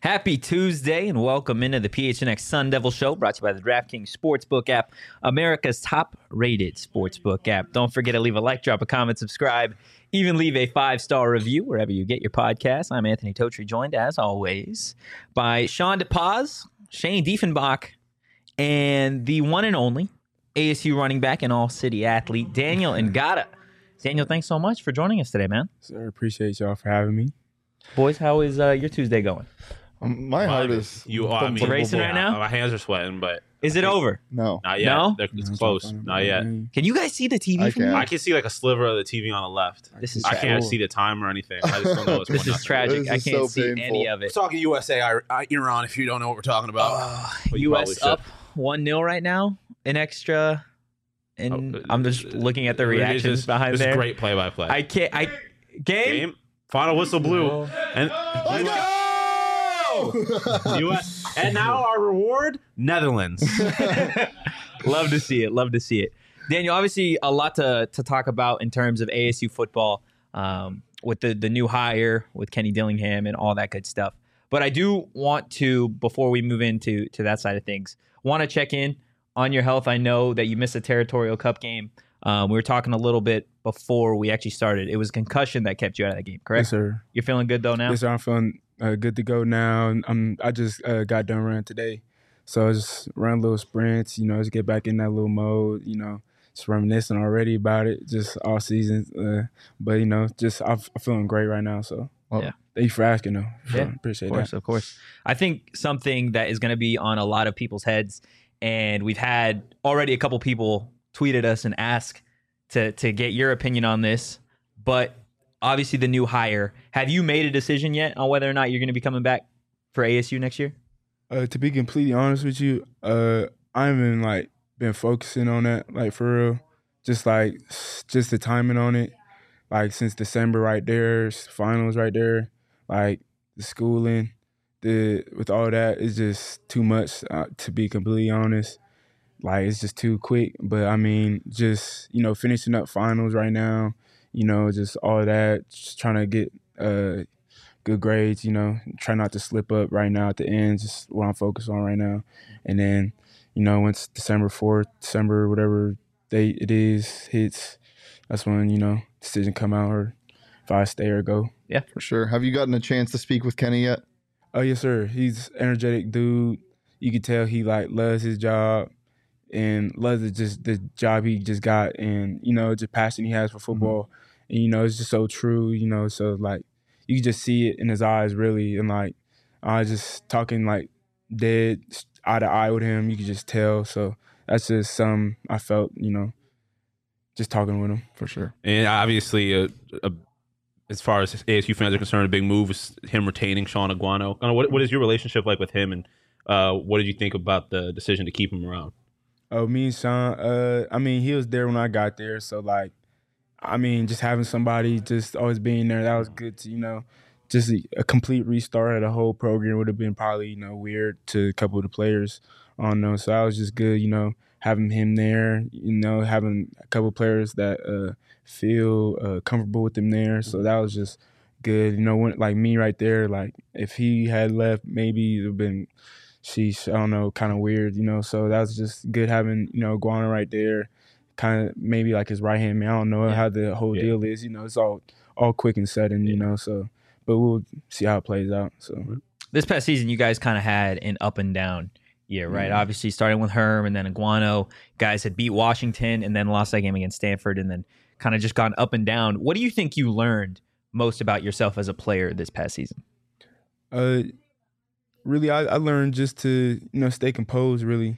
Happy Tuesday and welcome into the PHNX Sun Devil Show, brought to you by the DraftKings Sportsbook app, America's top-rated sportsbook app. Don't forget to leave a like, drop a comment, subscribe, even leave a 5-star review wherever you get your podcast. I'm Anthony Totri, joined as always by Sean DePaz, Shane Diefenbach, and the one and only ASU running back and all-city athlete, Daniel Ngata. Daniel, thanks so much for joining us today, man. Sir, appreciate y'all for having me. Boys, how is your Tuesday going? My heart is racing right now? My hands are sweating, but Is it over? No. not yet. No? It's close. Not yet. Can you guys see the TV I from can. here? I can see like a sliver of the TV on the left. This is I can't tragic. see the time or anything. I just don't know what's This going is on. tragic. This I is can't so see painful. any of it. Talking USA, Iran, if you don't know what we're talking about. But you probably U.S. should. up 1-0 right now. An extra. And I'm just looking at the reactions behind This there. is great play-by-play. I can't. Game. Final whistle blew. And Let's go! US, and now our reward, Netherlands. Love to see it. Love to see it. Daniel, obviously a lot to talk about in terms of ASU football with the new hire, with Kenny Dillingham and all that good stuff. But I do want to, before we move into that side of things, want to check in on your health. I know that you missed a Territorial Cup game. We were talking a little bit before we actually started. It was concussion that kept you out of that game, correct? Yes, sir. You're feeling good though now? Yes, sir. I'm feeling good to go now. I just got done running today. So I just run little sprints, just get back in that little mode, just reminiscing already about it, just all season. But, I'm feeling great right now. So Yeah. Thank you for asking, though. Yeah, Appreciate Of course, that. of course. I think something that is going to be on a lot of people's heads, and we've had already a couple people tweeted us and ask to get your opinion on this, but obviously the new hire. Have you made a decision yet on whether or not you're going to be coming back for ASU next year? To be completely honest with you, I haven't been focusing on that for real. Just the timing on it, since December right there, finals right there, the schooling, with all that, it's just too much. To be completely honest, it's just too quick. But I mean, just finishing up finals right now, just all that, just trying to get good grades, try not to slip up right now at the end, just what I'm focused on right now. And then, once December 4th, December, whatever date it is, hits, that's when, decision come out or if I stay or go. Yeah. For sure. Have you gotten a chance to speak with Kenny yet? Oh, yes, sir. He's an energetic dude. You can tell he, loves his job and loves just the job he just got and, the passion he has for football. And, it's just so true, so, you can just see it in his eyes, really. And, I was just talking, dead eye to eye with him. You could just tell. So that's just something I felt, just talking with him. For sure. And obviously, as far as ASU fans are concerned, a big move is him retaining Sean Aguano. What is your relationship like with him, and what did you think about the decision to keep him around? Oh, me and Sean, he was there when I got there. So, just having somebody just always being there, that was good to, just a complete restart of the whole program would have been probably, weird to a couple of the players. I don't know. So that was just good, having him there, having a couple of players that feel comfortable with him there. So that was just good. When, me right there, if he had left, maybe it would have been, sheesh, I don't know, kind of weird, So that was just good having, Guana right there. Kind of maybe his right hand man. I don't know how the whole deal is. It's all quick and sudden. So, but we'll see how it plays out. So This past season, you guys kind of had an up and down year, right? Obviously, starting with Herm and then Aguano, guys had beat Washington and then lost that game against Stanford, and then kind of just gone up and down. What do you think you learned most about yourself as a player this past season? Really, I learned just to stay composed. Really,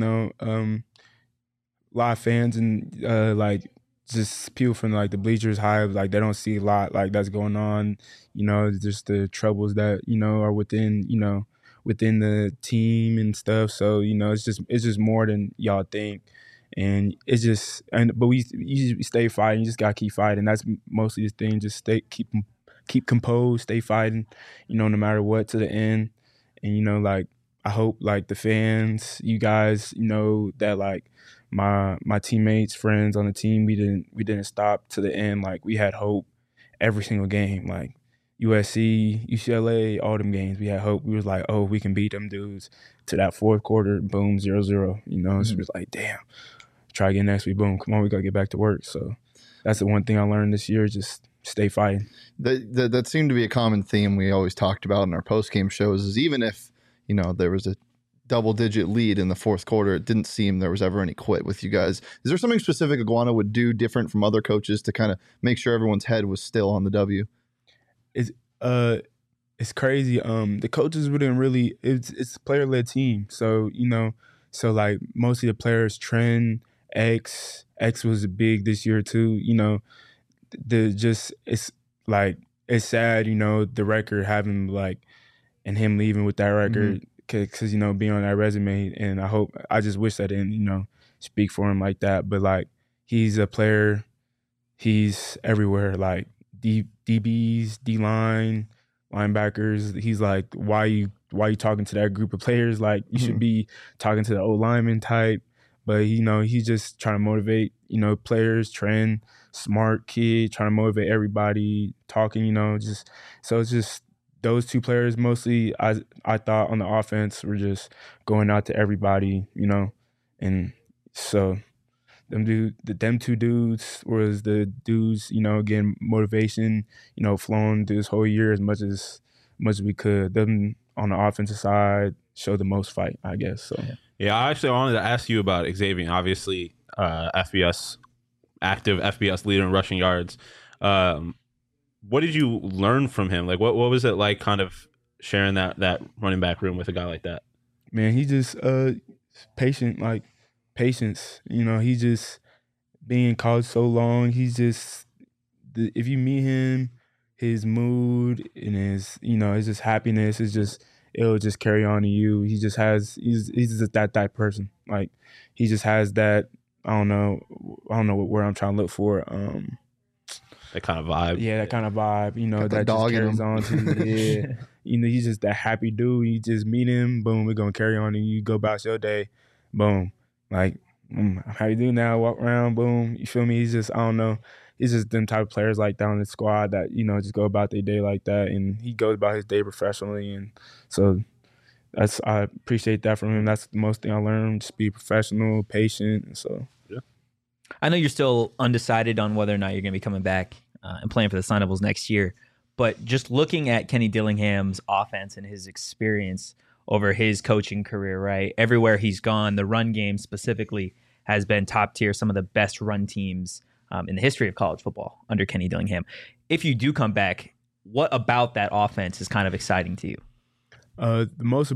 a lot of fans and just people from the bleachers high, they don't see a lot that's going on, just the troubles that are within within the team and stuff. So it's just more than y'all think, and but we stay fighting. You just gotta keep fighting. That's mostly the thing. Just keep composed, stay fighting, no matter what, to the end. And I hope the fans, you guys, that my teammates, friends on the team, we didn't stop to the end. We had hope every single game. USC, UCLA, all them games. We had hope. We was like, oh, we can beat them dudes. To that fourth quarter, boom, 0-0. You know, so it was like, damn. Try again next week. Boom, come on, we gotta get back to work. So that's the one thing I learned this year. Just stay fighting. That seemed to be a common theme we always talked about in our post game shows. Is even if there was a double-digit lead in the fourth quarter, it didn't seem there was ever any quit with you guys. Is there something specific Iguana would do different from other coaches to kind of make sure everyone's head was still on the W? It's crazy. The coaches wouldn't really. It's a player-led team, so so like mostly the players. Trend X was big this year too. It's like it's sad. The record having like and him leaving with that record. Because being on that resume, and I just wish I didn't speak for him like that. But like he's a player, he's everywhere. Like DBs, D line, linebackers. He's like, why you talking to that group of players? Like you should be talking to the old lineman type. But he's just trying to motivate players. Trend, smart kid, trying to motivate everybody. Talking, so it's just. Those two players mostly, I thought on the offense were just going out to everybody, and so them two dudes was the dudes, getting motivation, flowing through this whole year as much as we could. Them on the offensive side showed the most fight, I guess. So yeah, I actually wanted to ask you about Xavier. Obviously, active FBS leader in rushing yards. What did you learn from him? Like, what was it like kind of sharing that running back room with a guy like that? Man, he just patient, like patience. He just being in college so long. He's just if you meet him, his mood and his it's just happiness. It'll just carry on to you. He's just that type person. Like he just has that. I don't know where I'm trying to look for. That kind of vibe. Yeah, that kind of vibe. Got that just carries on to he's just that happy dude. You just meet him, boom, we're gonna carry on, and you go about your day, boom. Like, how you do now? Walk around, boom. You feel me? He's just, I don't know. He's just them type of players like that on the squad that just go about their day like that, and he goes about his day professionally, and so I appreciate that from him. That's the most thing I learned: just be professional, patient, and so. Yeah. I know you're still undecided on whether or not you're going to be coming back and playing for the Sun Devils next year, but just looking at Kenny Dillingham's offense and his experience over his coaching career, right? Everywhere he's gone, the run game specifically has been top tier, some of the best run teams in the history of college football under Kenny Dillingham. If you do come back, what about that offense is kind of exciting to you? The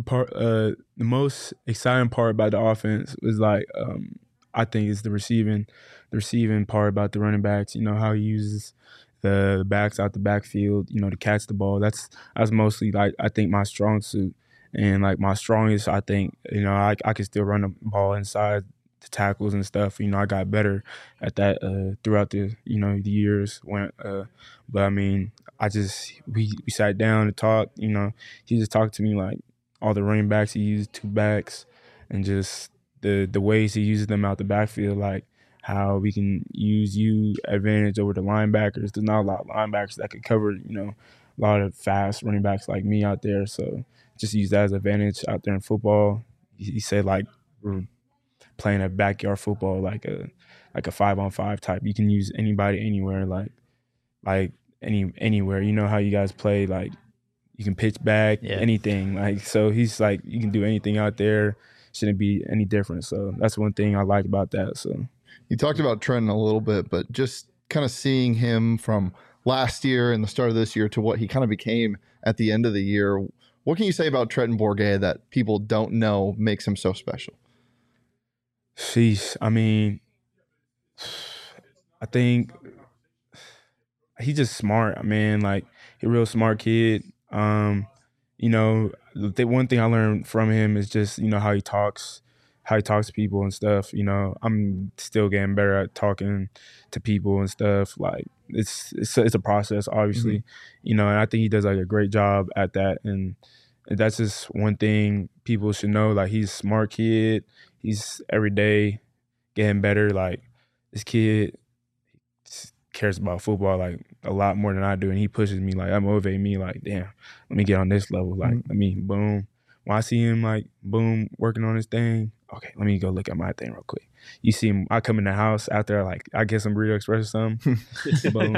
most exciting part about the offense is like I think it's the receiving part about the running backs. How he uses the backs out the backfield, to catch the ball. That's mostly like I think my strong suit, and like my strongest. I think I can still run the ball inside the tackles and stuff. I got better at that throughout the the years when. But I mean, we sat down and talked. He just talked to me like all the running backs. He used two backs and just the ways he uses them out the backfield, like how we can use advantage over the linebackers. There's not a lot of linebackers that could cover, a lot of fast running backs like me out there. So just use that as advantage out there in football. He said like we're playing a backyard football, like a 5-on-5 type. You can use anybody anywhere, like anywhere. You know how you guys play, like you can pitch back, anything. Like so he's like you can do anything out there. Shouldn't be any different. So that's one thing I like about that. So you talked about Trenton a little bit, but just kind of seeing him from last year and the start of this year to what he kind of became at the end of the year, what can you say about Trenton Bourguet that people don't know makes him so special? Sheesh. I mean, I think he's just smart. I mean, like he's a real smart kid. The one thing I learned from him is just, how he talks to people and stuff. I'm still getting better at talking to people and stuff. Like it's a process, obviously, and I think he does like a great job at that. And that's just one thing people should know. Like he's a smart kid. He's every day getting better. Like this kid cares about football like a lot more than I do, and he pushes me like that motivates me like, damn, let me get on this level. Like let me boom. When I see him like boom working on his thing, okay, let me go look at my thing real quick. You see him, I come in the house after like I get some Burrito Express or something. Boom,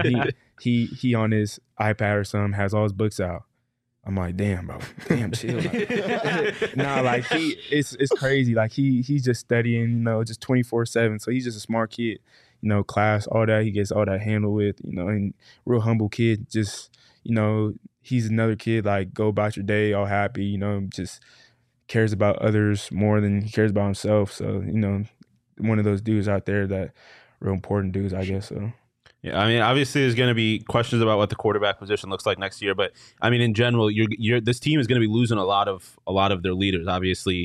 he on his iPad or something has all his books out. I'm like, damn, bro, chill. Like, nah, like it's crazy. Like he's just studying, you know, just 24/7. So he's just a smart kid, you know, class, all that. He gets all that handled with, you know, and real humble kid. Just, you know, he's another kid. Like go about your day, all happy, you know, just cares about others more than he cares about himself. So, you know, one of those dudes out there that real important dudes, I guess. So. Yeah, I mean, obviously, there's going to be questions about what the quarterback position looks like next year, but I mean, in general, this team is going to be losing a lot of their leaders. Obviously,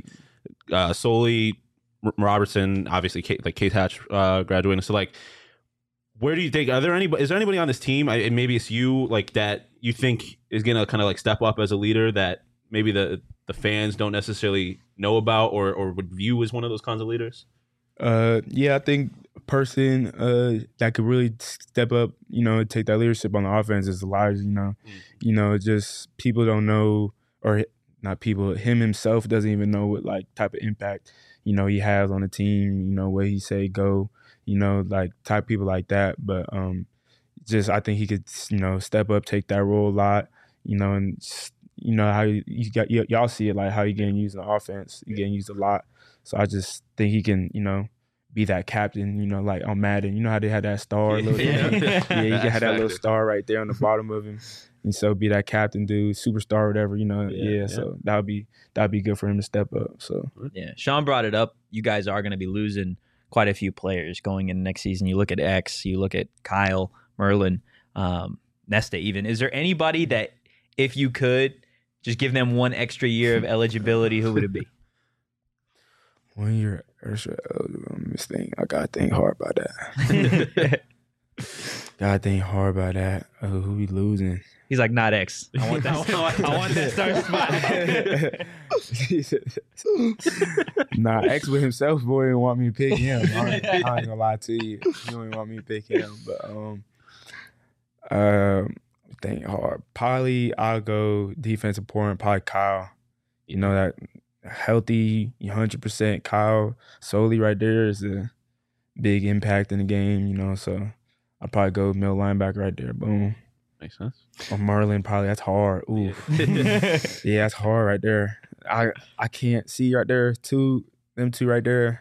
Soley, Robertson, obviously, Case Hatch graduating. So, like, where do you think? Is there anybody on this team, and maybe it's you, like that you think is going to kind of like step up as a leader that maybe the fans don't necessarily know about or would view as one of those kinds of leaders? Yeah, I think a person that could really step up, you know, take that leadership on the offense is Elijah. You know, just people don't know, or not people, him himself doesn't even know what like type of impact, you know, he has on the team. You know, where he say go, you know, like type people like that. But just I think he could, you know, step up, take that role a lot. You know, and just, you know how y'all see it, like how he getting used in the offense, he getting used a lot. So I just think he can, you know, be that captain, you know, like on Madden. You know how they had that star? Little yeah, he can have that little star right there on the bottom of him. And so be that captain dude, superstar, whatever, you know. Yeah. So that'd be good for him to step up. So yeah. Sean brought it up. You guys are going to be losing quite a few players going into next season. You look at X, you look at Kyle, Merlin, Nesta even. Is there anybody that if you could just give them one extra year of eligibility, who would it be? 1 year extra eligible. This thing, I gotta think hard about that. Gotta think hard about that. Who we losing? He's like, not X. I want that. I want that start spot. Nah, X with himself, boy, didn't want me to pick him. I ain't gonna lie to you. He don't even want me to pick him. But think hard. Probably I'll go defensive important. Probably Kyle. You know that. Healthy, 100% Kyle Soley right there is a big impact in the game, you know, so I'll probably go middle linebacker right there. Boom. Makes sense. Or Merlin, probably. That's hard. Ooh. Yeah, that's hard right there. I can't see right there. Them two right there.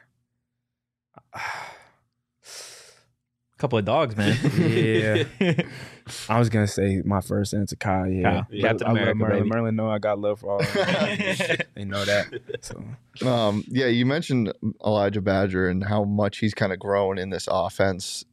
Couple of dogs, man. Yeah. I was gonna say my first answer, Kyle. Yeah, Kyle. Captain America, Merlin. baby. Merlin know I got love for all of them. They know that. So, yeah, you mentioned Elijah Badger and how much he's kind of grown in this offense.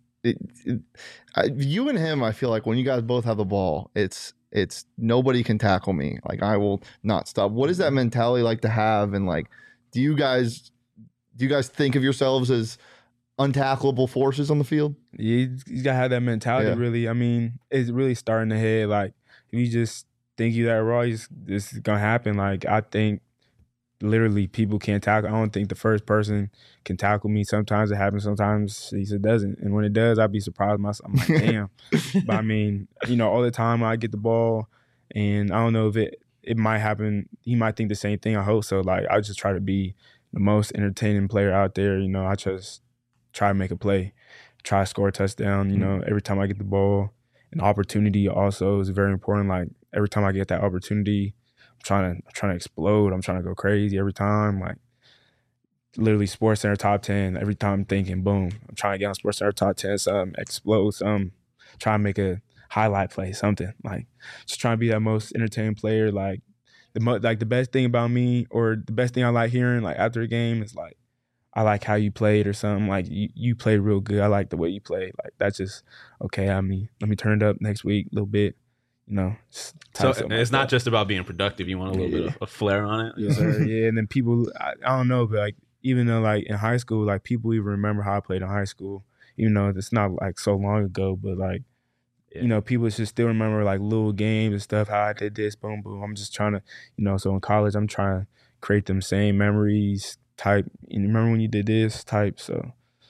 You and him, I feel like when you guys both have the ball, it's nobody can tackle me. Like I will not stop. What is that mentality like to have? And like, do you guys think of yourselves as untackleable forces on the field? You gotta have that mentality. Yeah. Really, I mean, it's really starting to head. Like if you just think you that raw, this is gonna happen. Like I think literally people can't tackle. I don't think the first person can tackle me. Sometimes it happens, sometimes it doesn't. And when it does, I'd be surprised myself. I'm like, damn. But I mean, you know, all the time I get the ball, and I don't know if it might happen. He might think the same thing. I hope so. Like I just try to be the most entertaining player out there. You know, I just try to make a play, try to score a touchdown, you know, every time I get the ball. And opportunity also is very important. Like every time I get that opportunity, I'm trying to explode. I'm trying to go crazy every time. Like literally SportsCenter top 10. Every time I'm thinking, boom, I'm trying to get on SportsCenter top 10, something, explode, something, try to make a highlight play, something. Like just trying to be that most entertaining player. Like the best thing about me, or the best thing I like hearing like after a game is like, I like how you played or something. Like you played real good. I like the way you played. Like that's just okay. I mean, let me turn it up next week a little bit. You know. So it's not just about being productive. You want a little bit of a flair on it. Yes, sir. Yeah, and then people, I don't know, but like even though like in high school, like people even remember how I played in high school. Even though it's not like so long ago, but like you know, people should still remember like little games and stuff. How I did this, boom, boom. I'm just trying to, you know. So in college, I'm trying to create them same memories. Type, and remember when you did this type, so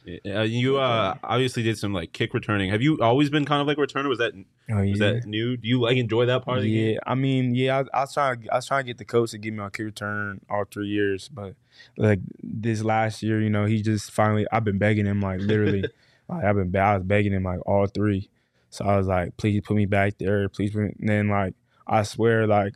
You obviously did some like kick returning. Have you always been kind of like a returner? Was that new? Do you like enjoy that part of the game? I mean, I was trying to get the coach to give me a kick return all 3 years, but like this last year, he just finally. I've been begging him like literally, I was begging him like all 3. So I was like, please put me back there, please. And then like I swear like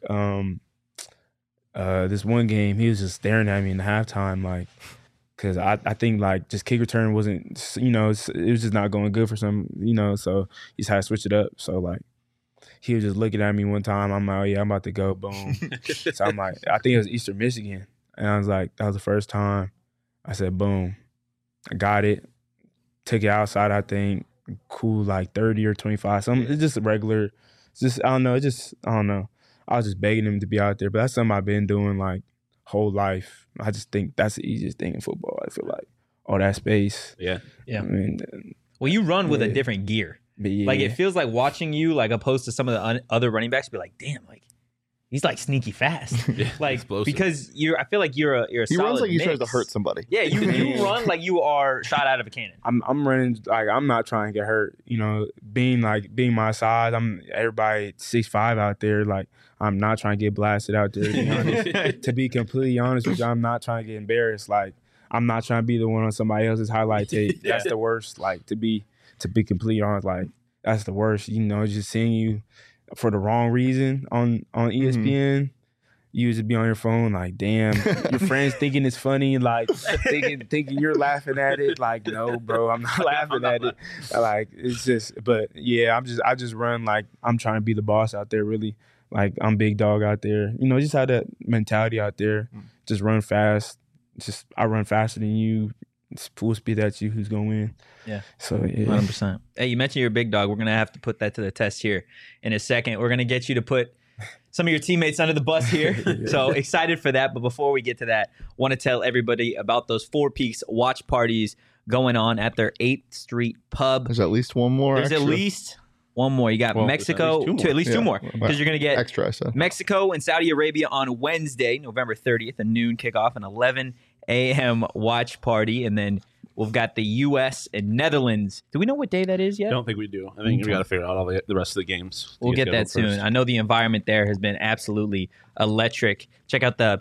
this one game he was just staring at me in the halftime like. Because I think, like, just kick return wasn't, it was just not going good for some, so he just had to switch it up. So, like, he was just looking at me one time. I'm like, oh, yeah, I'm about to go. Boom. So I'm like, I think it was Eastern Michigan. And I was like, that was the first time. I said, boom. I got it. Took it outside, I think. Cool, like 30 or 25. Something. It's just a regular. It's just, I don't know. I was just begging him to be out there. But that's something I've been doing, like, whole life. I just think that's the easiest thing in football. I feel like all that space. Yeah. I mean, well, you run with a different gear. Yeah. Like it feels like watching you, like opposed to some of the other running backs, be like, damn, like he's like sneaky fast. Like explosive. because I feel like you're a he runs like he's trying mix. to hurt somebody. Yeah, you run like you are shot out of a cannon. I'm running like I'm not trying to get hurt. Being my size, I'm everybody 6'5" out there. Like I'm not trying to get blasted out there. To be honest. To be completely honest with you, I'm not trying to get embarrassed. Like I'm not trying to be the one on somebody else's highlight tape. That's the worst. Like to be completely honest, like that's the worst. Just seeing you for the wrong reason on ESPN. Mm-hmm. You just be on your phone like, damn, your friends thinking it's funny, like thinking you're laughing at it. Like, no, bro, I'm not laughing at it. Like, it's just, but yeah, I just run like I'm trying to be the boss out there, really. Like, I'm big dog out there. Just have that mentality out there. Just run fast. I run faster than you. It's full speed at you. Who's gonna win? Yeah. So yeah. 100%. Hey, you mentioned you're a big dog. We're gonna have to put that to the test here in a second. We're gonna get you to put some of your teammates under the bus here. So excited for that. But before we get to that, want to tell everybody about those Four Peaks watch parties going on at their 8th Street pub. There's at least one more. There's extra. at least one more. You got Mexico, at least two more. Because you're going to get extra, I said. Mexico and Saudi Arabia on Wednesday, November 30th, a noon kickoff, an 11 a.m. watch party. And then we've got the U.S. and Netherlands. Do we know what day that is yet? I don't think we do. I think we got to figure out all the rest of the games. We'll get that soon. I know the environment there has been absolutely electric. Check out the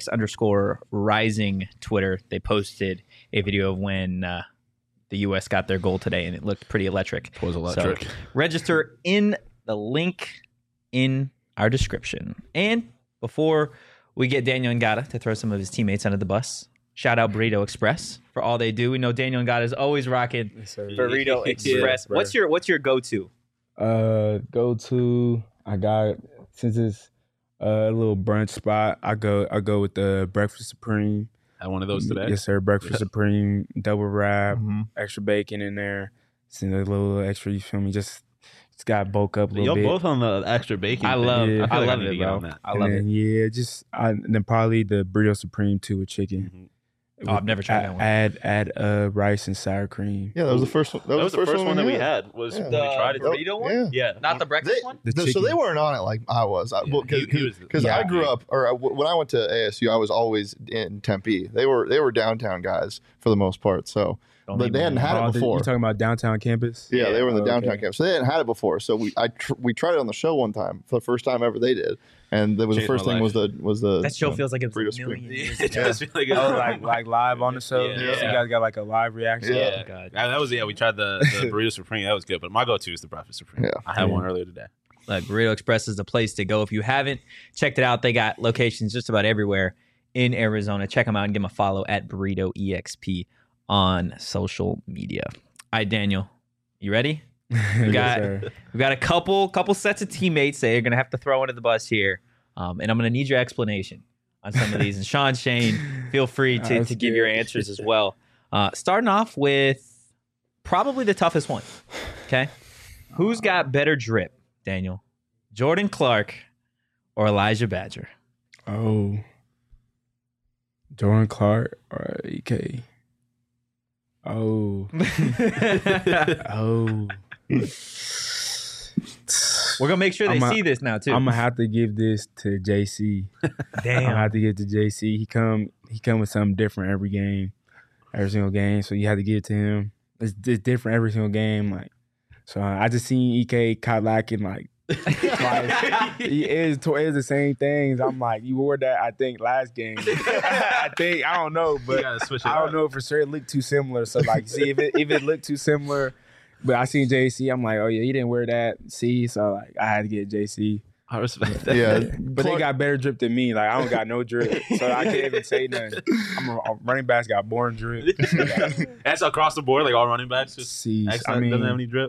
PHNX_rising Twitter. They posted a video of when the U.S. got their goal today, and it looked pretty electric. It was electric. So register in the link in our description. And before we get Daniel Ngata to throw some of his teammates under the bus, shout out Burrito Express for all they do. We know Daniel Ngata is always rocking Burrito Express. What's your go-to? I got, since it's a little brunch spot, I go with the Breakfast Supreme. Had one of those today? Yes, sir. Breakfast Supreme, double wrap, extra bacon in there. It's a little extra, you feel me? Just got bulk up a little bit. You're both on the extra bacon. I love it, bro. I love it. Yeah, and then probably the Burrito Supreme too with chicken. Mm-hmm. Oh, I've never tried that one. Add rice and sour cream. Yeah, that was the first one. That was the first one that we had. Was when we tried it. Burrito one? Yeah. Not the breakfast one? So they weren't on it like I was. Because I grew up, or when I went to ASU, I was always in Tempe. They were downtown guys for the most part. So, but they hadn't had it before. You talking about downtown campus? Yeah, they were in the downtown campus. So they hadn't had it before. So we tried it on the show one time for the first time ever they did. And that was the first thing was the that show feels like it was Burrito a million years It does feel like like live on the show. Yeah. So you guys got like a live reaction. Yeah. Oh, God. That was we tried the Burrito Supreme. That was good. But my go-to is the Breakfast Supreme. Yeah. I had one earlier today. Look, Burrito Express is the place to go. If you haven't checked it out, they got locations just about everywhere in Arizona. Check them out and give them a follow at Burrito EXP on social media. All right, Daniel, you ready? We got a couple sets of teammates that you're gonna have to throw under the bus here, and I'm gonna need your explanation on some of these. And Sean, Shane, feel free to give your answers as well. Starting off with probably the toughest one. Okay, who's got better drip, Daniel? Jordan Clark or Elijah Badger? Oh, Jordan Clark or EK? Oh. We're gonna make sure they see this now too. I'm gonna have to give this to JC. Damn. I'm gonna have to give it to JC. He come with something different every game. every single game. So you had to give it to him. It's different every single game. Like, so I just seen EK caught lacking like twice. It is the same things. I'm like, you wore that, I think, last game. I don't know, You but gotta switch it I don't up. know for sure. It looked too similar. So like, see if it looked too similar. But I seen JC. I'm like, oh yeah, he didn't wear that. See, so like, I had to get JC. I respect that. Yeah, But they got better drip than me. Like, I don't got no drip, so I can't even say nothing. I'm a running backs got born drip. That's across the board, like all running backs. Just See, X I doesn't have mean, any drip.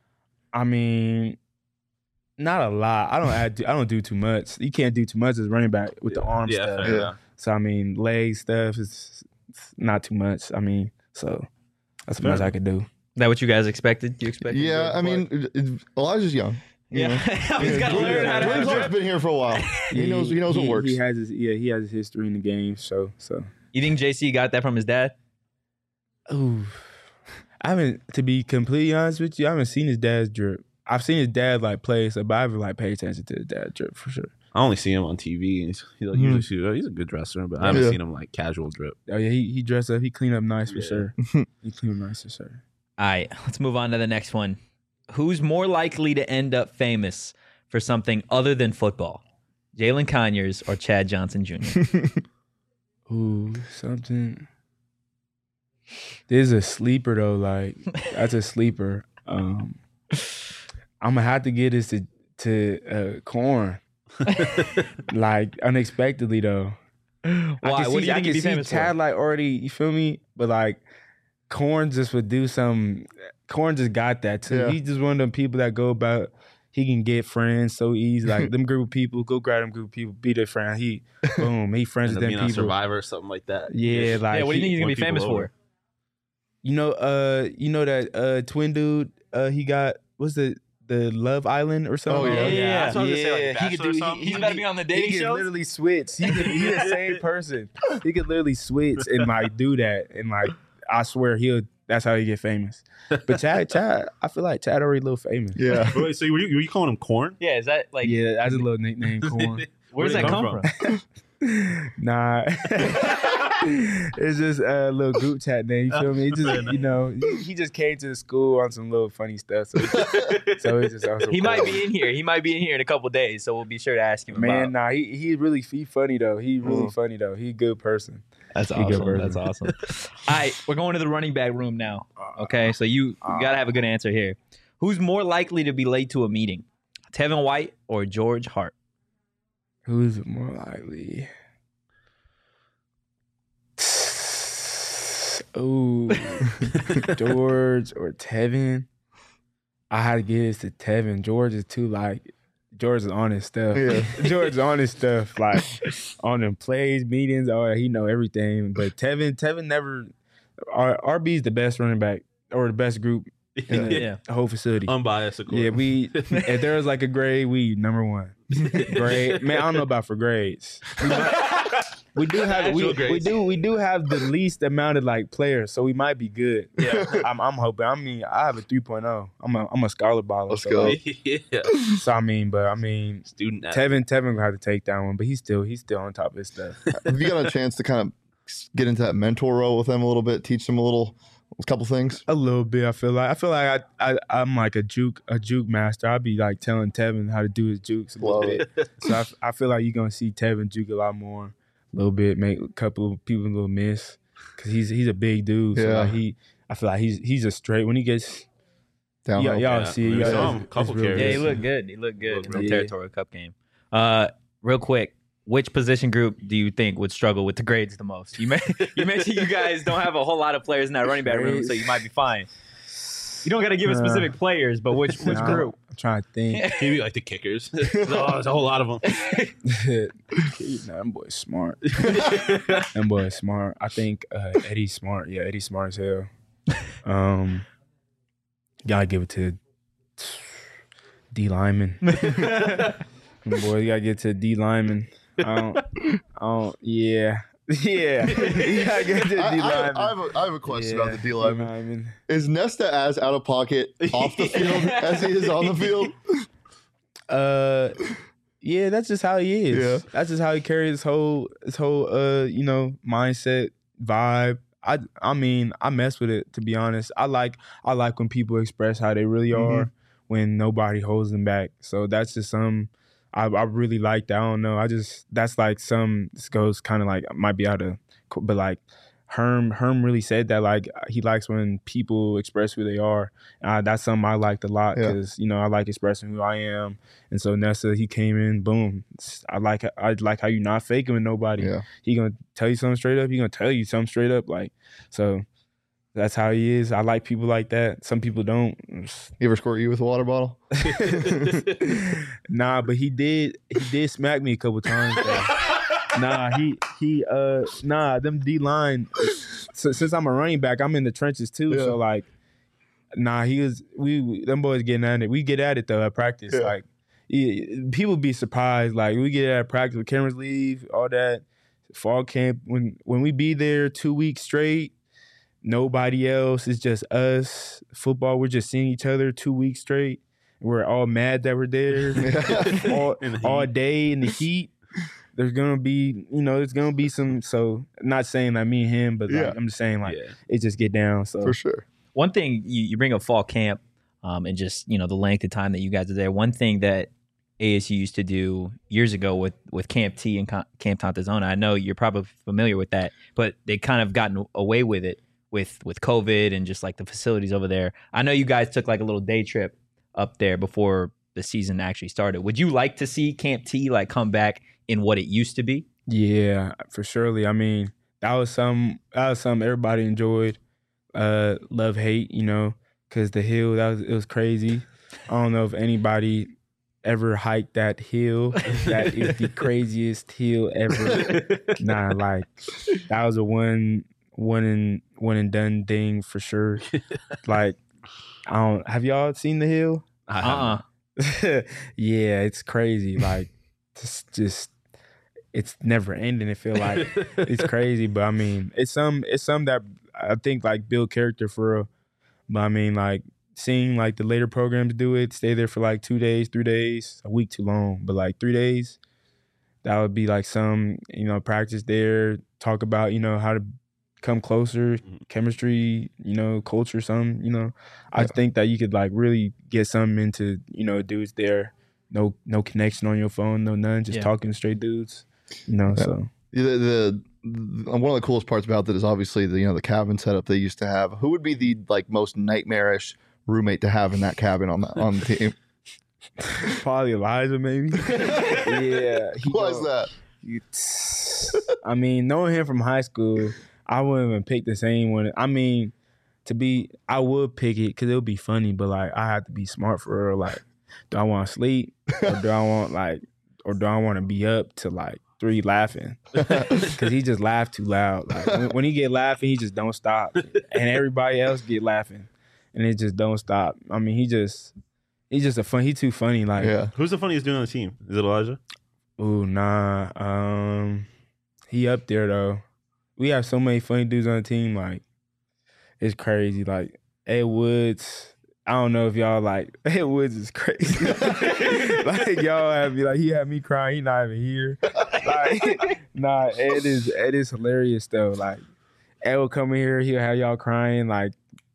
not a lot. I don't do too much. You can't do too much as running back with the arm Yeah, stuff. fair Yeah. enough. So leg stuff is not too much. So that's as much as I could do. Is that what you guys expected? You expected? Yeah, I mean, Elijah's young. you know? He's got to learn how to have Grimslow's drip. been here for a while. He knows what works. He has his history in the game. So You think JC got that from his dad? ooh, I haven't, to be completely honest with you, I haven't seen his dad's drip. I've seen his dad like play, so but I haven't like paid attention to his dad's drip for sure. I only see him on TV. He's like, Mhm. usually he's a good dresser, but I haven't Yeah. seen him like casual drip. Oh yeah, he dressed up. He cleaned up nice for Yeah. sure. He cleaned up nice for sure. All right, let's move on to the next one. Who's more likely to end up famous for something other than football? Jalen Conyers or Chad Johnson Jr.? Ooh, something. This is a sleeper though. Like, that's a sleeper. I'm gonna have to get this to Corn. Like, unexpectedly though. Why? What do you think he'd be famous Chad for? like already. You feel me? But like, Corn just would do some. Corn just got that too. Yeah. He's just one of them people that go about. He can get friends so easy. Like them group of people, go grab them group of people, be their friend. He boom, he friends End with up them being on people. Survivor or something like that. Yeah, like Yeah, what do you think he's gonna be won people famous over. for? you know that twin dude. He got what's the Love Island or something. Oh, yeah. Yeah, that's what I was gonna say, like, he could Bachelor or do. something? He's about to be on the dating He could shows? literally switch. He's the same person. He could literally switch and like do that, and like I swear that's how he get famous. But Chad, I feel like Chad already a little famous. Yeah. Wait, so were you calling him Corn? Yeah, is that like? Yeah, that's a little nickname, Corn. Where's Where'd that it come from? Nah, it's just a little group chat name. You feel me? He just, he just came to the school on some little funny stuff. So it's just also He cool. might be in here. He might be in here in a couple days, so we'll be sure to ask him. Man, about. nah, he really funny though. He really funny though. He a good person. That's He good awesome. person. That's awesome. All right, we're going to the running back room now. Okay, so you gotta have a good answer here. Who's more likely to be late to a meeting, Tevin White or George Hart? Who's more likely? Oh, George or Tevin? I had to get this to Tevin. George is George is on his stuff. Yeah. George is on his stuff, like on them plays, meetings. Oh, he know everything. But Tevin never. RB's the best running back or the best group in the Yeah. whole facility. Unbiased, of course. Yeah, if there was like a grade, we number one. Grade, man, I don't know about for grades. We do have Actual grades. we do have the least amount of like players, so we might be good. Yeah. I'm hoping. I mean, I have a 3.0. I'm a scholar baller. Let's so, go. like, yeah. so I mean, Student athlete. Tevin gonna have to take that one, but he's still on top of his stuff. Have you got a chance to kind of get into that mentor role with them a little bit, teach them a couple things? A little bit. I feel like I'm like a juke master. I'll be like telling Tevin how to do his jukes a little Love bit. So I feel like you're gonna see Tevin juke a lot more, a little bit, make a couple of people a little miss, because he's a big dude. So Yeah. like I feel like he's a straight when he gets. Downhill. Y'all see, We y'all- saw him. it's Couple real carries. Yeah, he good. looked good. He looked good in the Yeah. Territorial Cup game. Real quick, which position group do you think would struggle with the grades the most? You mentioned you guys don't have a whole lot of players in that running back room, so you might be fine. You don't got to give us specific players, but which Nah, group? I'm trying to think. Maybe like the kickers. There's a whole lot of them. Nah, them boys smart. Them boys smart. I think Eddie's smart. Yeah, Eddie's smart as hell. Gotta give it to D Lyman. Boy, you gotta get to D Lyman. I don't. Yeah. Yeah. You gotta get to D Lyman. I have a question about the D lineman. lineman. Is Nesta as out of pocket off the field as he is on the field? Yeah, that's just how he is. Yeah. That's just how he carries his whole mindset, vibe. I mean, I mess with it, to be honest. I like when people express how they really are when nobody holds them back. So that's just I really like that. I don't know. That's like this goes kind of like, might be out of, but like Herm really said that, like, he likes when people express who they are. That's something I liked a lot because, you know, I like expressing who I am. And so Nessa, he came in, boom. I like how you're not faking with nobody. Yeah. He gonna tell you something straight up. He gonna tell you something straight up. Like, so that's how he is. I like people like that. Some people don't. He ever squirt you with a water bottle? Nah, but he did smack me a couple times. Them D-line, so, since I'm a running back, I'm in the trenches too. Yeah. So like, them boys getting at it. We get at it though at practice. Yeah. Like, people be surprised. Like, we get at practice when cameras leave, all that. Fall camp, when we be there 2 weeks straight, nobody else. It's just us. Football, we're just seeing each other 2 weeks straight. We're all mad that we're there all day in the heat. There's gonna be, there's gonna be some. So, not saying like me and him, but like, I'm just saying like it just get down. So For sure. One thing you bring up fall camp, and just the length of time that you guys are there. One thing that ASU used to do years ago with Camp T and Camp Tantazona. I know you're probably familiar with that, but they kind of gotten away with it with COVID and just like the facilities over there. I know you guys took like a little day trip up there before the season actually started. Would you like to see Camp T like come back in what it used to be? Yeah, for surely. I mean, that was something everybody enjoyed. Love, hate, because the hill, it was crazy. I don't know if anybody ever hiked that hill. That is the craziest hill ever. Like, that was a one and done thing for sure. Like, have y'all seen the hill? Yeah, it's crazy. Like, just it's never ending. It feel like it's crazy, but I mean, it's some that I think like build character for real. But I mean, like, seeing like the later programs do it, stay there for like 2 days, 3 days, a week too long, but like 3 days, that would be like some, practice there, talk about, how to come closer, chemistry, culture, some, I think that you could like really get something into, dudes there, no connection on your phone, no none, just talking straight dudes, so. One of the coolest parts about that is obviously the cabin setup they used to have. Who would be the like most nightmarish roommate to have in that cabin on the team? Probably Elijah, maybe. Yeah. Why is that? I mean, knowing him from high school, I wouldn't even pick the same one. I mean, I would pick it because it would be funny, but like, I have to be smart for real. Like, do I want to sleep or do I want to be up to like 3 laughing? Because he just laughed too loud. Like, when he get laughing, he just don't stop, and everybody else get laughing, and it just don't stop. I mean, he's just he too funny. Like, who's the funniest dude on the team? Is it Elijah? Ooh, nah. He up there though. We have so many funny dudes on the team. Like, it's crazy. Like, Ed Woods. I don't know if y'all like, Ed Woods is crazy. Like, y'all have me like, he had me crying. He not even here. Like, nah, Ed is hilarious though. Like, Ed will come in here, he'll have y'all crying like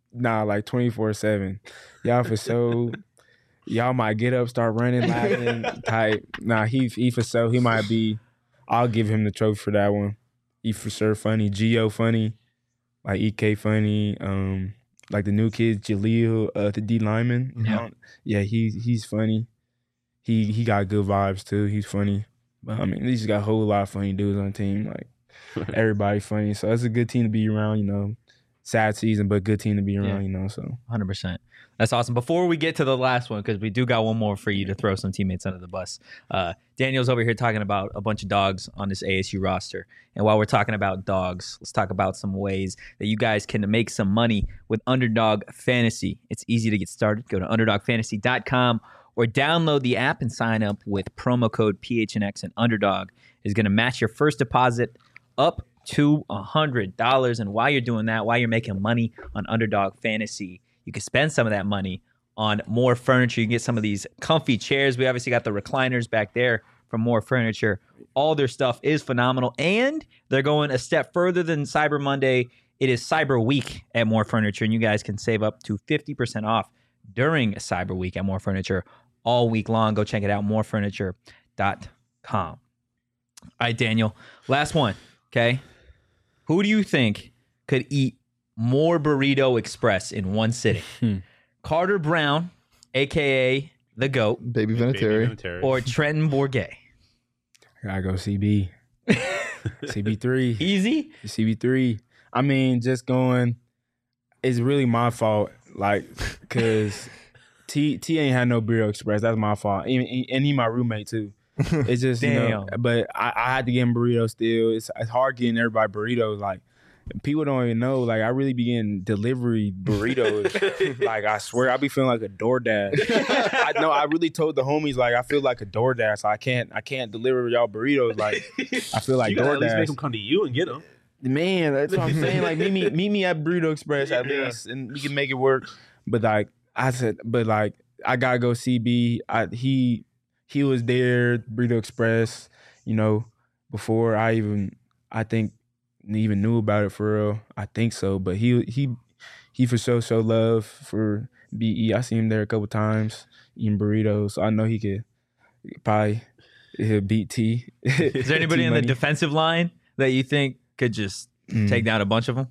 24/7. Y'all for so, y'all might get up, start running, laughing type. Nah, he for so, he might be, I'll give him the trophy for that one. He for sure funny. Gio funny. Like, EK funny. Like the new kid, Jaleel, the D lineman. Yeah, he's funny. He got good vibes too. He's funny. But I mean, he just got a whole lot of funny dudes on the team. Like, everybody funny. So it's a good team to be around, Sad season, but good team to be around, so. 100%. That's awesome. Before we get to the last one, because we do got one more for you to throw some teammates under the bus. Daniel's over here talking about a bunch of dogs on this ASU roster. And while we're talking about dogs, let's talk about some ways that you guys can make some money with Underdog Fantasy. It's easy to get started. Go to UnderdogFantasy.com or download the app and sign up with promo code PHNX, and Underdog is going to match your first deposit up to $100. And while you're doing that, while you're making money on Underdog Fantasy, you can spend some of that money on more furniture. You can get some of these comfy chairs. We obviously got the recliners back there for more furniture. All their stuff is phenomenal, and they're going a step further than Cyber Monday It is Cyber Week at More Furniture, and you guys can save up to 50% off during Cyber Week at More Furniture all week long. Go check it out, morefurniture.com. All right, Daniel, last one, okay? Who do you think could eat more Burrito Express in one sitting? Carter Brown, a.k.a. the GOAT, Baby Vinatieri. or Trenton Bourget? I go CB. CB3. Easy? CB3. I mean, just going, it's really my fault. Like, because T ain't had no Burrito Express. That's my fault. And he my roommate, too. It's just, you know, but I had to get him burritos still. It's hard getting everybody burritos. Like, people don't even know. Like, I really be getting delivery burritos. Like, I swear, I be feeling like a DoorDash. I know. I really told the homies, like, I feel like a DoorDash. So I can't deliver y'all burritos. Like, I feel like You gotta DoorDash. at least make them come to you and get them. Man, that's what I'm saying. Like, meet me at Burrito Express at least, and we can make it work. But like I said, I gotta go CB. He was there, Burrito Express, you know, before I think even knew about it for real. I think so, but he for sure show love for BE. I seen him there a couple times eating burritos, so I know he could probably beat T. Is there anybody in the defensive line that you think could just take down a bunch of them?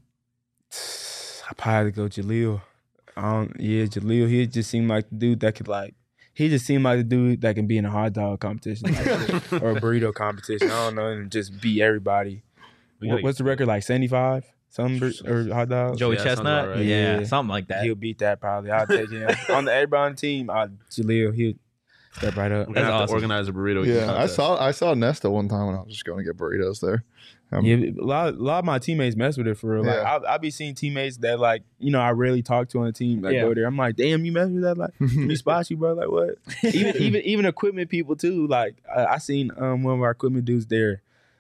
I probably go Jaleel. Jaleel. He just seemed like the dude that could he just seemed like the dude that can be in a hot dog competition or a burrito competition. I don't know, and just beat everybody. What's the record, like 75? Or hot dogs? Joey Chestnut? Right. Yeah, something like that. He'll beat that probably. I'll take him. Everybody on the team, Jaleel, he'll step right up. We're gonna have awesome. to organize a burrito. Yeah, contest. I saw Nesta one time when I was just going to get burritos there. Yeah, a lot of my teammates mess with it for real. Like, Yeah. I be seeing teammates that I rarely talk to on the team. Go there. I'm like, damn, you mess with that? Like, we spot you, bro. Like, what? even equipment people too. Like, I seen one of our equipment dudes there.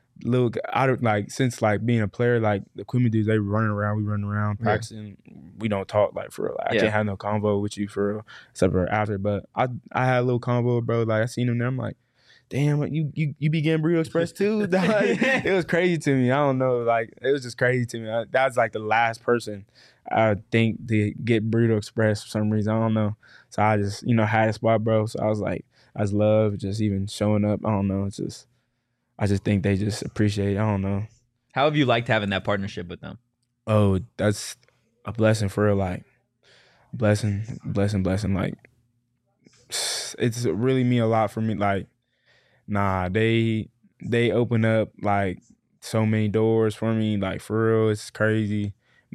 Since being a player, like the equipment dudes, they running around. We running around practicing. We don't talk for real. Like, I can't have no convo with you for real, except for after. But I had a little convo, bro. Like, I seen him there. I'm like, damn, you be getting Burrito Express too? It was crazy to me. I don't know. Like, it was just crazy to me. That was like the last person I think to get Burrito Express for some reason. I don't know. So I just, had a spot, bro. So I was like, I just love just even showing up. I don't know. I just think they just appreciate it. I don't know. How have you liked having that partnership with them? Oh, that's a blessing for real. Like, blessing. Like, it's really mean a lot for me. Like, nah, they open up like so many doors for me. Like, for real, it's crazy.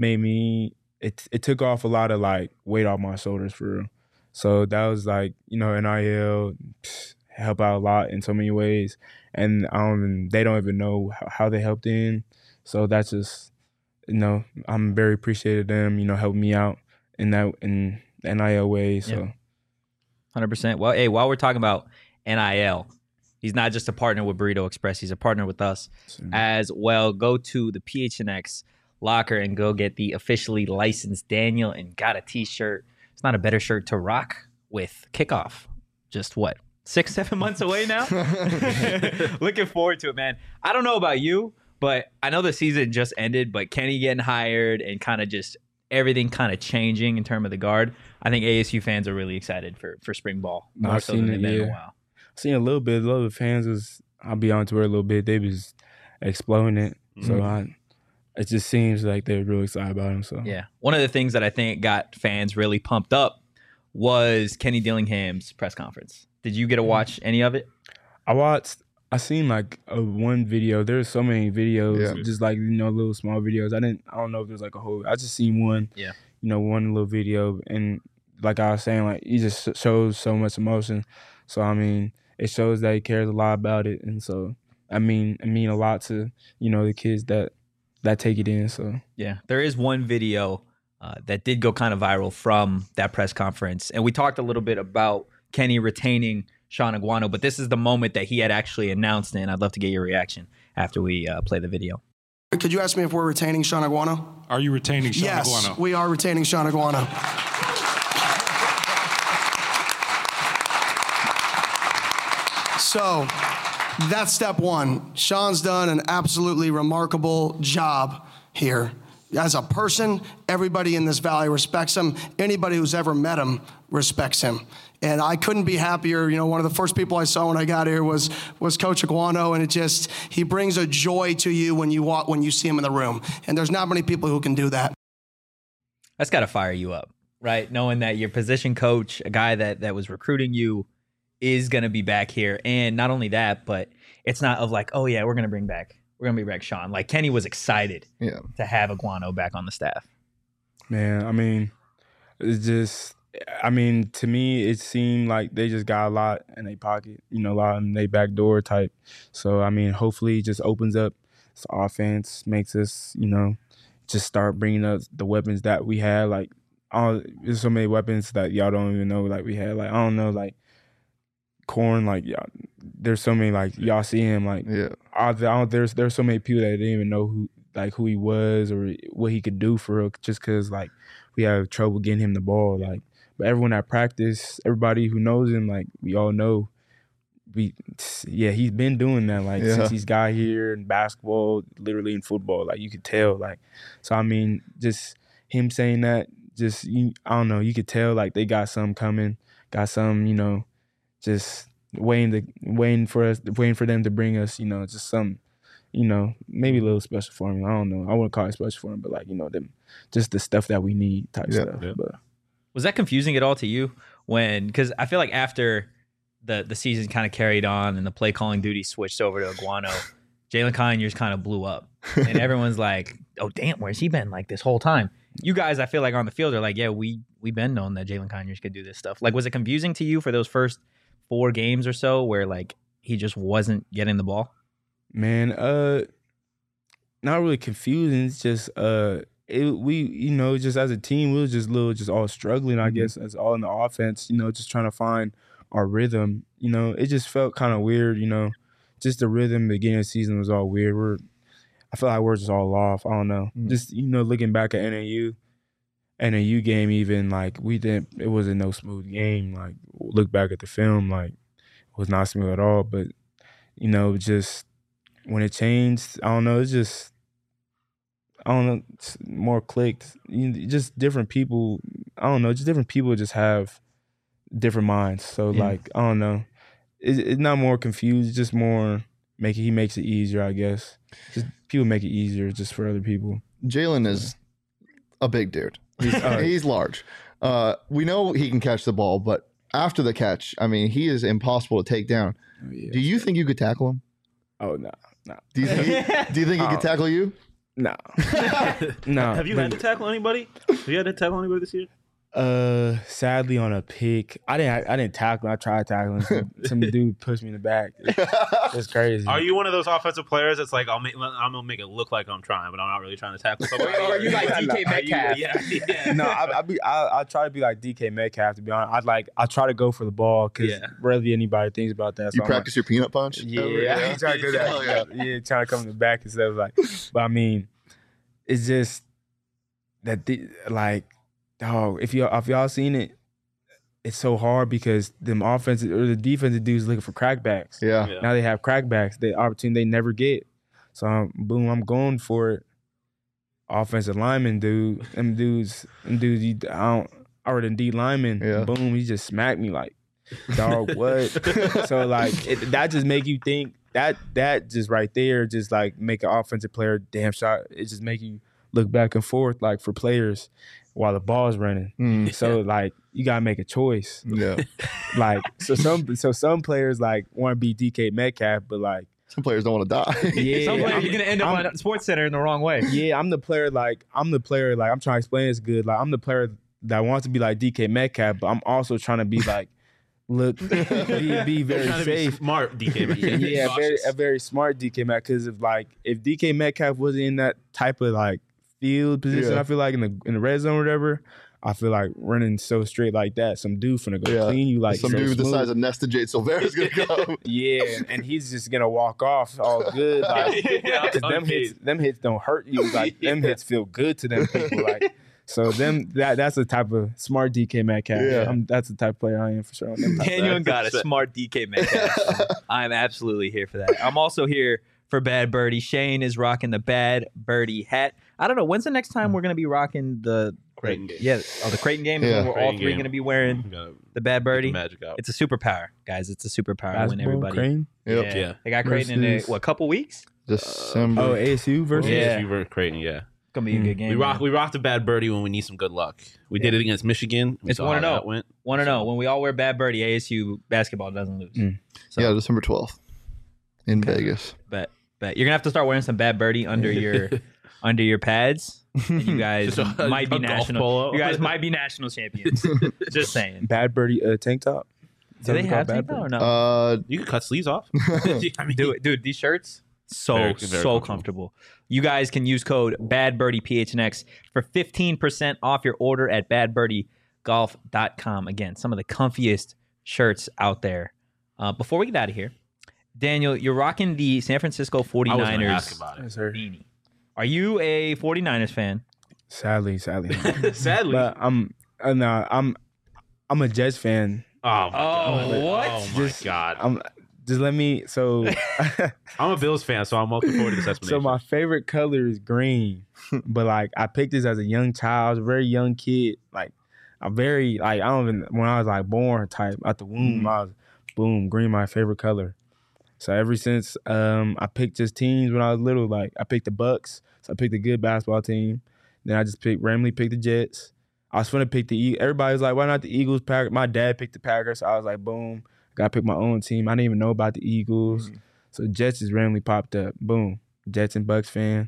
It took off a lot of like weight off my shoulders for real. So that was like, NIL help out a lot in so many ways, and they don't even know how they helped in. So that's just, I'm very appreciative of them, helping me out in NIL way. So 100%. Well, hey, while we're talking about NIL, he's not just a partner with Burrito Express. He's a partner with us as well. Go to the PHNX locker and go get the officially licensed Daniel and got a t-shirt. It's not a better shirt to rock with kickoff. Just 6-7 months away now? Looking forward to it, man. I don't know about you, but I know the season just ended, but Kenny getting hired and kind of just everything kind of changing in terms of the guard. I think ASU fans are really excited for spring ball. More so than they've been in a while. I've seen a little bit. A lot of the fans I'll be on Twitter a little bit. They was exploding it. So it just seems like they're really excited about him. So yeah. One of the things that I think got fans really pumped up was Kenny Dillingham's press conference. Did you get to watch any of it? I seen like one video. There's so many videos, just like, little small videos. I don't know if there's like a whole, I just seen one, one little video. And like I was saying, like, he just shows so much emotion. So, I mean, it shows that he cares a lot about it. And so, it mean a lot to, the kids that take it in. So, yeah, there is one video that did go kind of viral from that press conference. And we talked a little bit about Kenny retaining Sean Aguano, but this is the moment that he had actually announced it, and I'd love to get your reaction after we play the video. Could you ask me if we're retaining Sean Aguano? Are you retaining Sean Yes, Aguano? we are retaining Sean Aguano. So that's step one. Sean's done an absolutely remarkable job here. as a person, everybody in this valley respects him. Anybody who's ever met him respects him. And I couldn't be happier. You know, one of the first people I saw when I got here was Coach Iguano, and he brings a joy to you when you see him in the room. And there's not many people who can do that. That's got to fire you up, right? Knowing that your position coach, a guy that was recruiting you, is going to be back here. And not only that, but it's not of like, oh yeah, we're going to bring back Sean. Like Kenny was excited to have Iguano back on the staff. Man, I mean, it's just, I mean, to me, it seemed like they just got a lot in their pocket, you know, a lot in their back door type. So, I mean, hopefully it just opens up this offense, makes us, you know, just start bringing up the weapons that we had. Like, there's so many weapons that y'all don't even know, like, we had. Like, I don't know, like, Corn, like, there's so many, like, y'all see him, like, there's so many people that didn't even know who he was or what he could do for real, just because, like, we have trouble getting him the ball. Like, but everyone at practice, everybody who knows him, like, we all know, he's been doing that, like, since he's got here in basketball, literally in football, like, you could tell, like, so, I mean, just him saying that, just, I don't know, you could tell, like, they got something coming, got some, you know, just waiting for them to bring us, you know, just some, you know, maybe a little special for him. I don't know. I wouldn't call it special for him, but like, you know, just the stuff that we need type stuff. Yeah. But was that confusing at all to you because I feel like after the season kind of carried on and the play calling duty switched over to Iguano, Jalen Conyers kind of blew up and everyone's like, oh damn, where's he been like this whole time? You guys, I feel like on the field are like, yeah, we've been known that Jalen Conyers could do this stuff. Like, was it confusing to you for those first 4 games or so where like he just wasn't getting the ball? Man, not really confusing. It's just we, you know, just as a team, we were just all struggling, I guess, as all in the offense, you know, just trying to find our rhythm. You know, it just felt kind of weird, you know, just the rhythm at the beginning of the season was all weird. I feel like we're just all off. I don't know. Just, you know, looking back at NAU game, even, like, it wasn't no smooth game. Like, look back at the film, like, it was not smooth at all. But, you know, just when it changed, I don't know, it's just, I don't know, it's more clicked. Just different people, I don't know, just different people just have different minds. So, like, I don't know. It's not more confused, it's just more, he makes it easier, I guess. Just people make it easier just for other people. Jalen is a big dude. He's large. We know he can catch the ball, but after the catch, I mean, he is impossible to take down. Oh, yeah. Do you think you could tackle him? Oh, no. Do you think he could tackle you? No. No. Have you had to tackle anybody? Have you had to tackle anybody this year? Sadly on a pick, I didn't tackle him. I tried tackling him. Some dude pushed me in the back. It's crazy. Are you one of those offensive players that's like, I'm gonna make it look like I'm trying, but I'm not really trying to tackle somebody? Or are you like DK Metcalf? Yeah. No, I try to be like DK Metcalf, to be honest. I try to go for the ball because rarely anybody thinks about that. So you practice your peanut punch? Yeah, I try to do that. Yeah, trying to come in the back instead of like. But I mean, it's just that dog, if y'all seen it, it's so hard because them offensive or the defensive dudes looking for crackbacks. Yeah. Now they have crackbacks, the opportunity they never get. So I'm going for it. Offensive lineman, dude. Them dudes, I already D lineman. Yeah. Boom, he just smacked me like, dog, what? So like that just make you think that just right there just like make an offensive player damn shot. It just make you look back and forth like for players while the ball's running. So like you gotta make a choice. Yeah. Like so some players like want to be DK Metcalf, but like some players don't want to die. Yeah. Some players you're gonna end up on Sports Center in the wrong way. Yeah, I'm the player like I'm trying to explain this good. Like I'm the player that wants to be like DK Metcalf, but I'm also trying to be like be very safe. Smart DK Metcalf. Yeah, a very smart DK Metcalf. Because if DK Metcalf wasn't in that type of like field position, I feel like in the red zone or whatever, I feel like running so straight like that, some dude finna go clean you like some so dude smooth. the size of Nesta Jade Silvera is gonna go. Yeah, and he's just gonna walk off all good. Like, them hits don't hurt you. Like them hits feel good to them people. Like so that's the type of smart DK Metcalf. Yeah. That's the type of player I am for sure. Daniel got a smart DK Metcalf. I'm absolutely here for that. I'm also here for Bad Birdie. Shane is rocking the Bad Birdie hat. I don't know. When's the next time we're gonna be rocking the Creighton game. Yeah. Oh, the Creighton game. Is Yeah. when we're all Creighton three game. gonna be wearing Gotta the Bad get Birdie. the magic out. It's a superpower, guys. It's a superpower to win Basketball, everybody. Crane. Yep. Yeah. They got Creighton in Versus- a couple weeks. December. Oh, ASU versus. Yeah. You were Creighton, yeah. It's gonna be a good game. We rocked the Bad Birdie when we need some good luck. We did it against Michigan. We It's saw how 1-0. that went. Want to know when we all wear Bad Birdie, ASU basketball doesn't lose. So, Yeah, December 12th in Vegas. but you're gonna have to start wearing some Bad Birdie under your pads. And you guys Just a- might be a golf national. polo. You guys might be national champions. Just saying. Bad Birdie tank top. Is Do that they what it's have called, tank top or no? You can cut sleeves off. I mean, Do it, dude. These shirts Very, very comfortable. You guys can use code BadBirdiePHNX for 15% off your order at badbirdiegolf.com. Again, some of the comfiest shirts out there. Before we get out of here, Daniel, you're rocking the San Francisco I was going to 49ers ask about it. Yes, sir. beanie. Are you a 49ers fan? Sadly. Sadly. But I'm a Jets fan. Oh, my God. what? Oh, my Just- God. Just let me. So, I'm a Bills fan, so I'm looking forward to this explanation. so my favorite color is green, but like I picked this as a young child, I was a very young kid. Like I'm very like I don't even when I was like born type out the womb, I was boom green my favorite color. So ever since I picked just teams when I was little, like I picked the Bucks, so I picked a good basketball team. Then I just randomly picked the Jets. I was gonna pick the Eagles. Everybody was like, why not the Eagles? Packers. My dad picked the Packers, so I was like, boom. Got to pick my own team. I didn't even know about the Eagles. So Jets just randomly popped up. Boom. Jets and Bucks fan.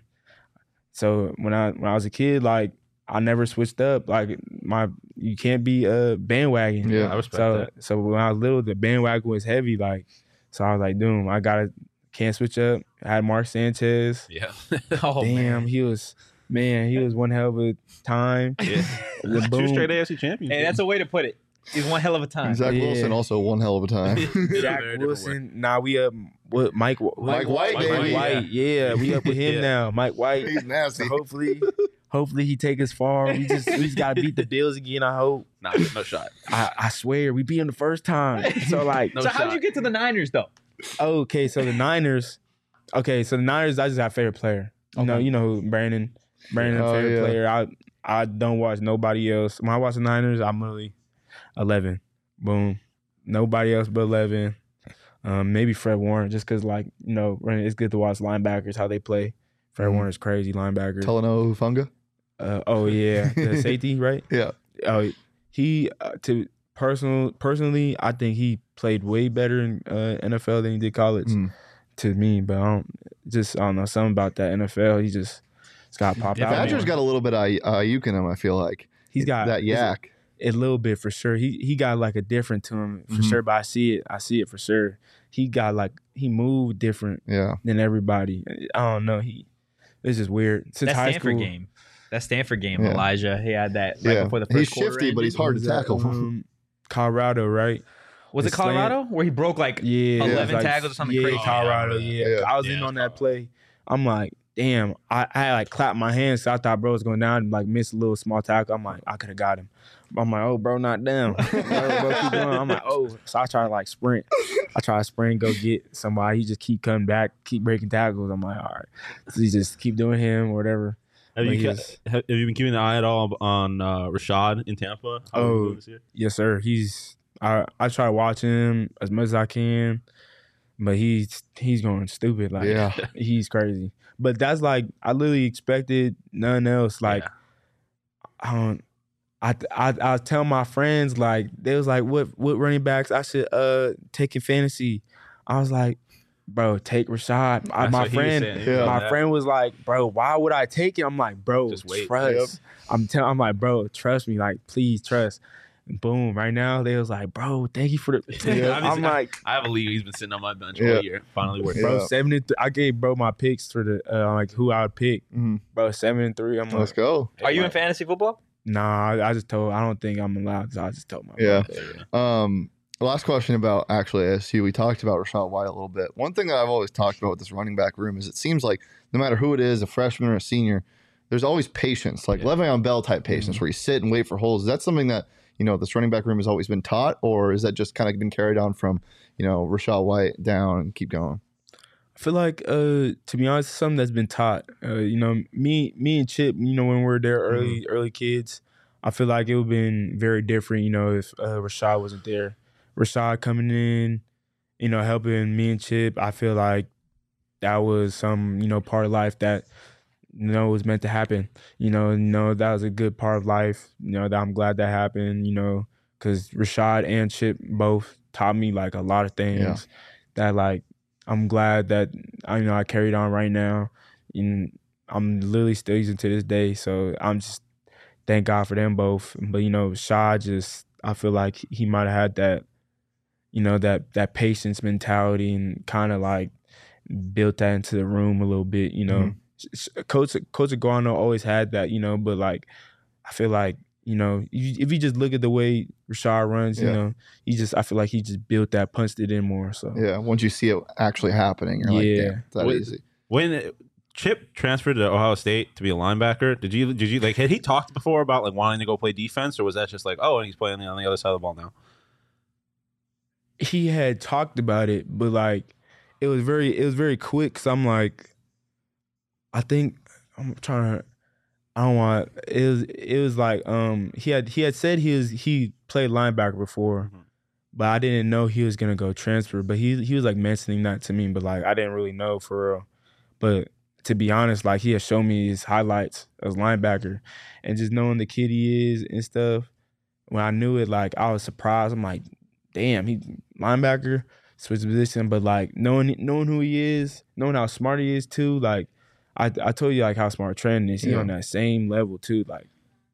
So when I was a kid, like I never switched up. Like you can't be a bandwagon. Yeah, I respect that. So when I was little, the bandwagon was heavy. Like so I was like, dude, can't switch up. I had Mark Sanchez. Yeah. Oh, Damn, man. he was one hell of a time. yeah. The Two boom. straight AFC champions. Hey, that's a way to put it. He's one hell of a time. Zach Yeah. Wilson also one hell of a time. Zach Very different way. Wilson. Nah, we up. What Mike Mike White, baby. White. Yeah, we up with him Yeah. now. Mike White. He's nasty. So hopefully he take us far. We just gotta beat the Bills again. I hope. Nah, no shot. I swear we beat them the first time. So like, No So how did shot. you get to the Niners though? okay. So the Niners. Okay, so the Niners. I just have favorite player. You know who Brandon. Oh, Favorite yeah. player. I don't watch nobody else. When I watch the Niners, I'm literally 11. Boom. Nobody else but 11. Maybe Fred Warner, just because, like, it's good to watch linebackers, how they play. Fred Warner's crazy linebacker. Talanoa Hufanga? Oh, yeah. The safety, right? Yeah. Oh, he, personally, I think he played way better in NFL than he did college to me. But I don't know, something about that NFL. He just got popped out. Badger's got a little bit of Ayuk in him, I feel like. He's got that yak. a little bit for sure. He got like a different to him for sure, but I see it for sure. He moved different Yeah. than everybody. I don't know. It's just weird. Since That high Stanford school, game. That Stanford game, Yeah. Elijah. He had that right Yeah. before the first He's quarter shifty, but he's ended. hard to was at, tackle. Colorado, right? Was it the slant- Colorado where he broke like Yeah, 11 like, tackles or something yeah, crazy? Colorado, Yeah. yeah. I was Yeah, in it's on that Colorado. play. I'm like, damn. I had like clapped my hands. So I thought bro was going down and like missed a little small tackle. I'm like, I could have got him. I'm like, oh, bro, not down. Bro, keep going. I'm like, oh. So I try to like sprint. Go get somebody. He just keep coming back, keep breaking tackles. I'm like, all right. So he just keep doing him or whatever. Have But you, yes. have you been keeping an eye at all on Rashad in Tampa? How Oh. he doing this year? Yes, sir. I try to watch him as much as I can, but he's going stupid. Like Yeah. he's crazy. But that's like I literally expected nothing else. Like I tell my friends like they was like what running backs I should take in fantasy. I was like, bro, take Rashad. That's My what he was friend, saying. He was on my that. friend was like, bro, why would I take it? I'm like, bro, Just wait. trust. I'm like, bro, trust me. Like, please trust. And boom, right now they was like, bro, thank you for the. Yeah. I'm like, I have a league. He's been sitting on my bench Yeah. all year. Finally working. bro, Yeah. 7-3. I gave bro my picks for the like who I would pick. Mhm. Bro, 7-3. I'm Let's like, go. Are you in fantasy football? nah. I just told. I don't think I'm allowed. So I just told my. Yeah. brother. Last question about actually ASU. We talked about Rashad White a little bit. One thing that I've always talked about with this running back room is it seems like no matter who it is, a freshman or a senior, there's always patience, like Le'Veon Bell type patience, where you sit and wait for holes. Is that something that this running back room has always been taught, or is that just kind of been carried on from Rashad White down and keep going? I feel like, to be honest, something that's been taught. You know, me and Chip, you know, when we were there early kids, I feel like it would have been very different, you know, if Rashad wasn't there. Rashad coming in, you know, helping me and Chip, I feel like that was some, you know, part of life that, you know, was meant to happen. You know, that was a good part of life, you know, that I'm glad that happened, you know, because Rashad and Chip both taught me, like, a lot of things that, like, I'm glad that I carried on right now, and I'm literally still using to this day. So I'm just thank God for them both. But you know, Shaw I feel like he might have had that, you know, that patience mentality and kind of like built that into the room a little bit. You know, Coach Aguano always had that, you know, but like I feel like, you know, if you just look at the way Rashad runs, you know, I feel like he just built that, punched it in more. So yeah, once you see it actually happening, you're like, damn, it's that easy. When Chip transferred to Ohio State to be a linebacker, did you like, had he talked before about like wanting to go play defense, or was that just like, oh, and he's playing on the other side of the ball now? He had talked about it, but like it was very quick. Cause I'm like, I think I'm trying to. I don't want. It was like he had said he played linebacker before, but I didn't know he was gonna go transfer. But he was like mentioning that to me, but like I didn't really know for real. But to be honest, like he had shown me his highlights as linebacker, and just knowing the kid he is and stuff. When I knew it, like I was surprised. I'm like, damn, he linebacker, switch position. But like knowing who he is, knowing how smart he is too, like. I told you like how smart Trent is. He's on that same level too. Like,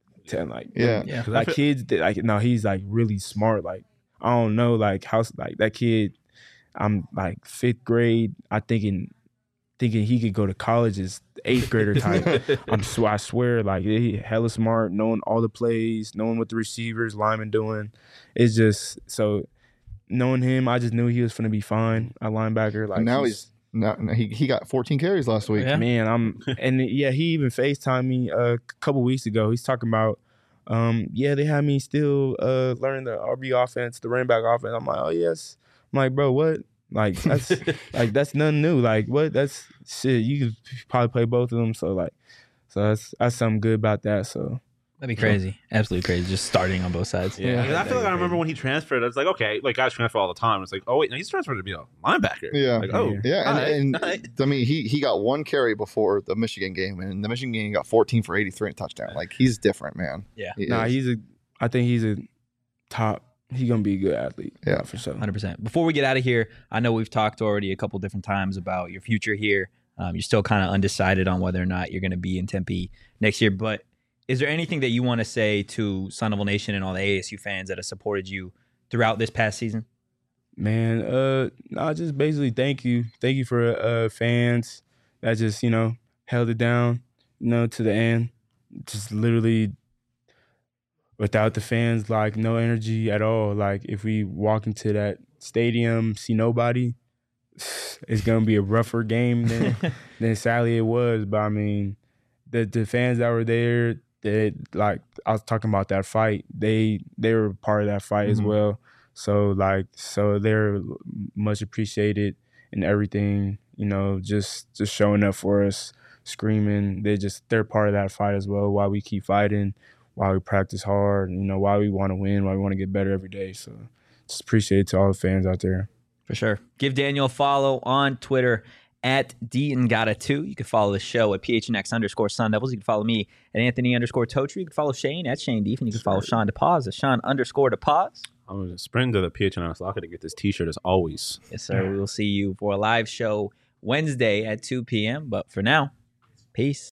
like kids. Like no, he's like really smart. Like I don't know, like how like that kid. I'm like 5th grade. I thinking he could go to college as 8th grader type. I swear, like he hella smart, knowing all the plays, knowing what the receivers, linemen doing. It's just so knowing him, I just knew he was gonna be fine at linebacker. Like and now he got 14 carries last week. Yeah. Man, he even FaceTimed me a couple weeks ago. He's talking about, they had me still learning the RB offense, the running back offense. I'm like, oh yes. I'm like, bro, what? Like that's like that's nothing new. Like what? That's shit. You could probably play both of them. So that's something good about that. So. That'd be crazy. Absolutely crazy. Just starting on both sides. Yeah. I feel like I remember when he transferred, I was like, okay, like guys transfer all the time. It's like, oh wait, no, he's transferred to be a linebacker. Yeah. Like, oh. Yeah. And I mean, he got 1 carry before the Michigan game, and the Michigan game he got 14 for 83 and touchdown. Like he's different, man. Yeah. I think he's a top. He's gonna be a good athlete. Yeah, for sure. 100%. Before we get out of here, I know we've talked already a couple different times about your future here. You're still kind of undecided on whether or not you're going to be in Tempe next year, but is there anything that you want to say to Sun Devil Nation and all the ASU fans that have supported you throughout this past season? Man, just basically thank you. Thank you for fans that just, you know, held it down, you know, to the end. Just literally without the fans, like no energy at all. Like if we walk into that stadium, see nobody, it's going to be a rougher game than sadly it was. But I mean, the fans that were there, like I was talking about that fight, they were part of that fight as well. So they're much appreciated and everything, you know, just showing up for us, screaming. They're part of that fight as well. Why we keep fighting, why we practice hard, you know, why we want to win, why we want to get better every day. So just appreciate it to all the fans out there. For sure. Give Daniel a follow on Twitter at DNGata2. You can follow the show at PHNX_Sun Devils. You can follow me at Anthony_Totri. You can follow Shane at Shane Deef, and you can follow Sean DePaz at Sean_DePaz. I'm going to sprint to the PHNX locker to get this t-shirt as always. Yes, sir. We will see you for a live show Wednesday at 2 p.m. But for now, peace.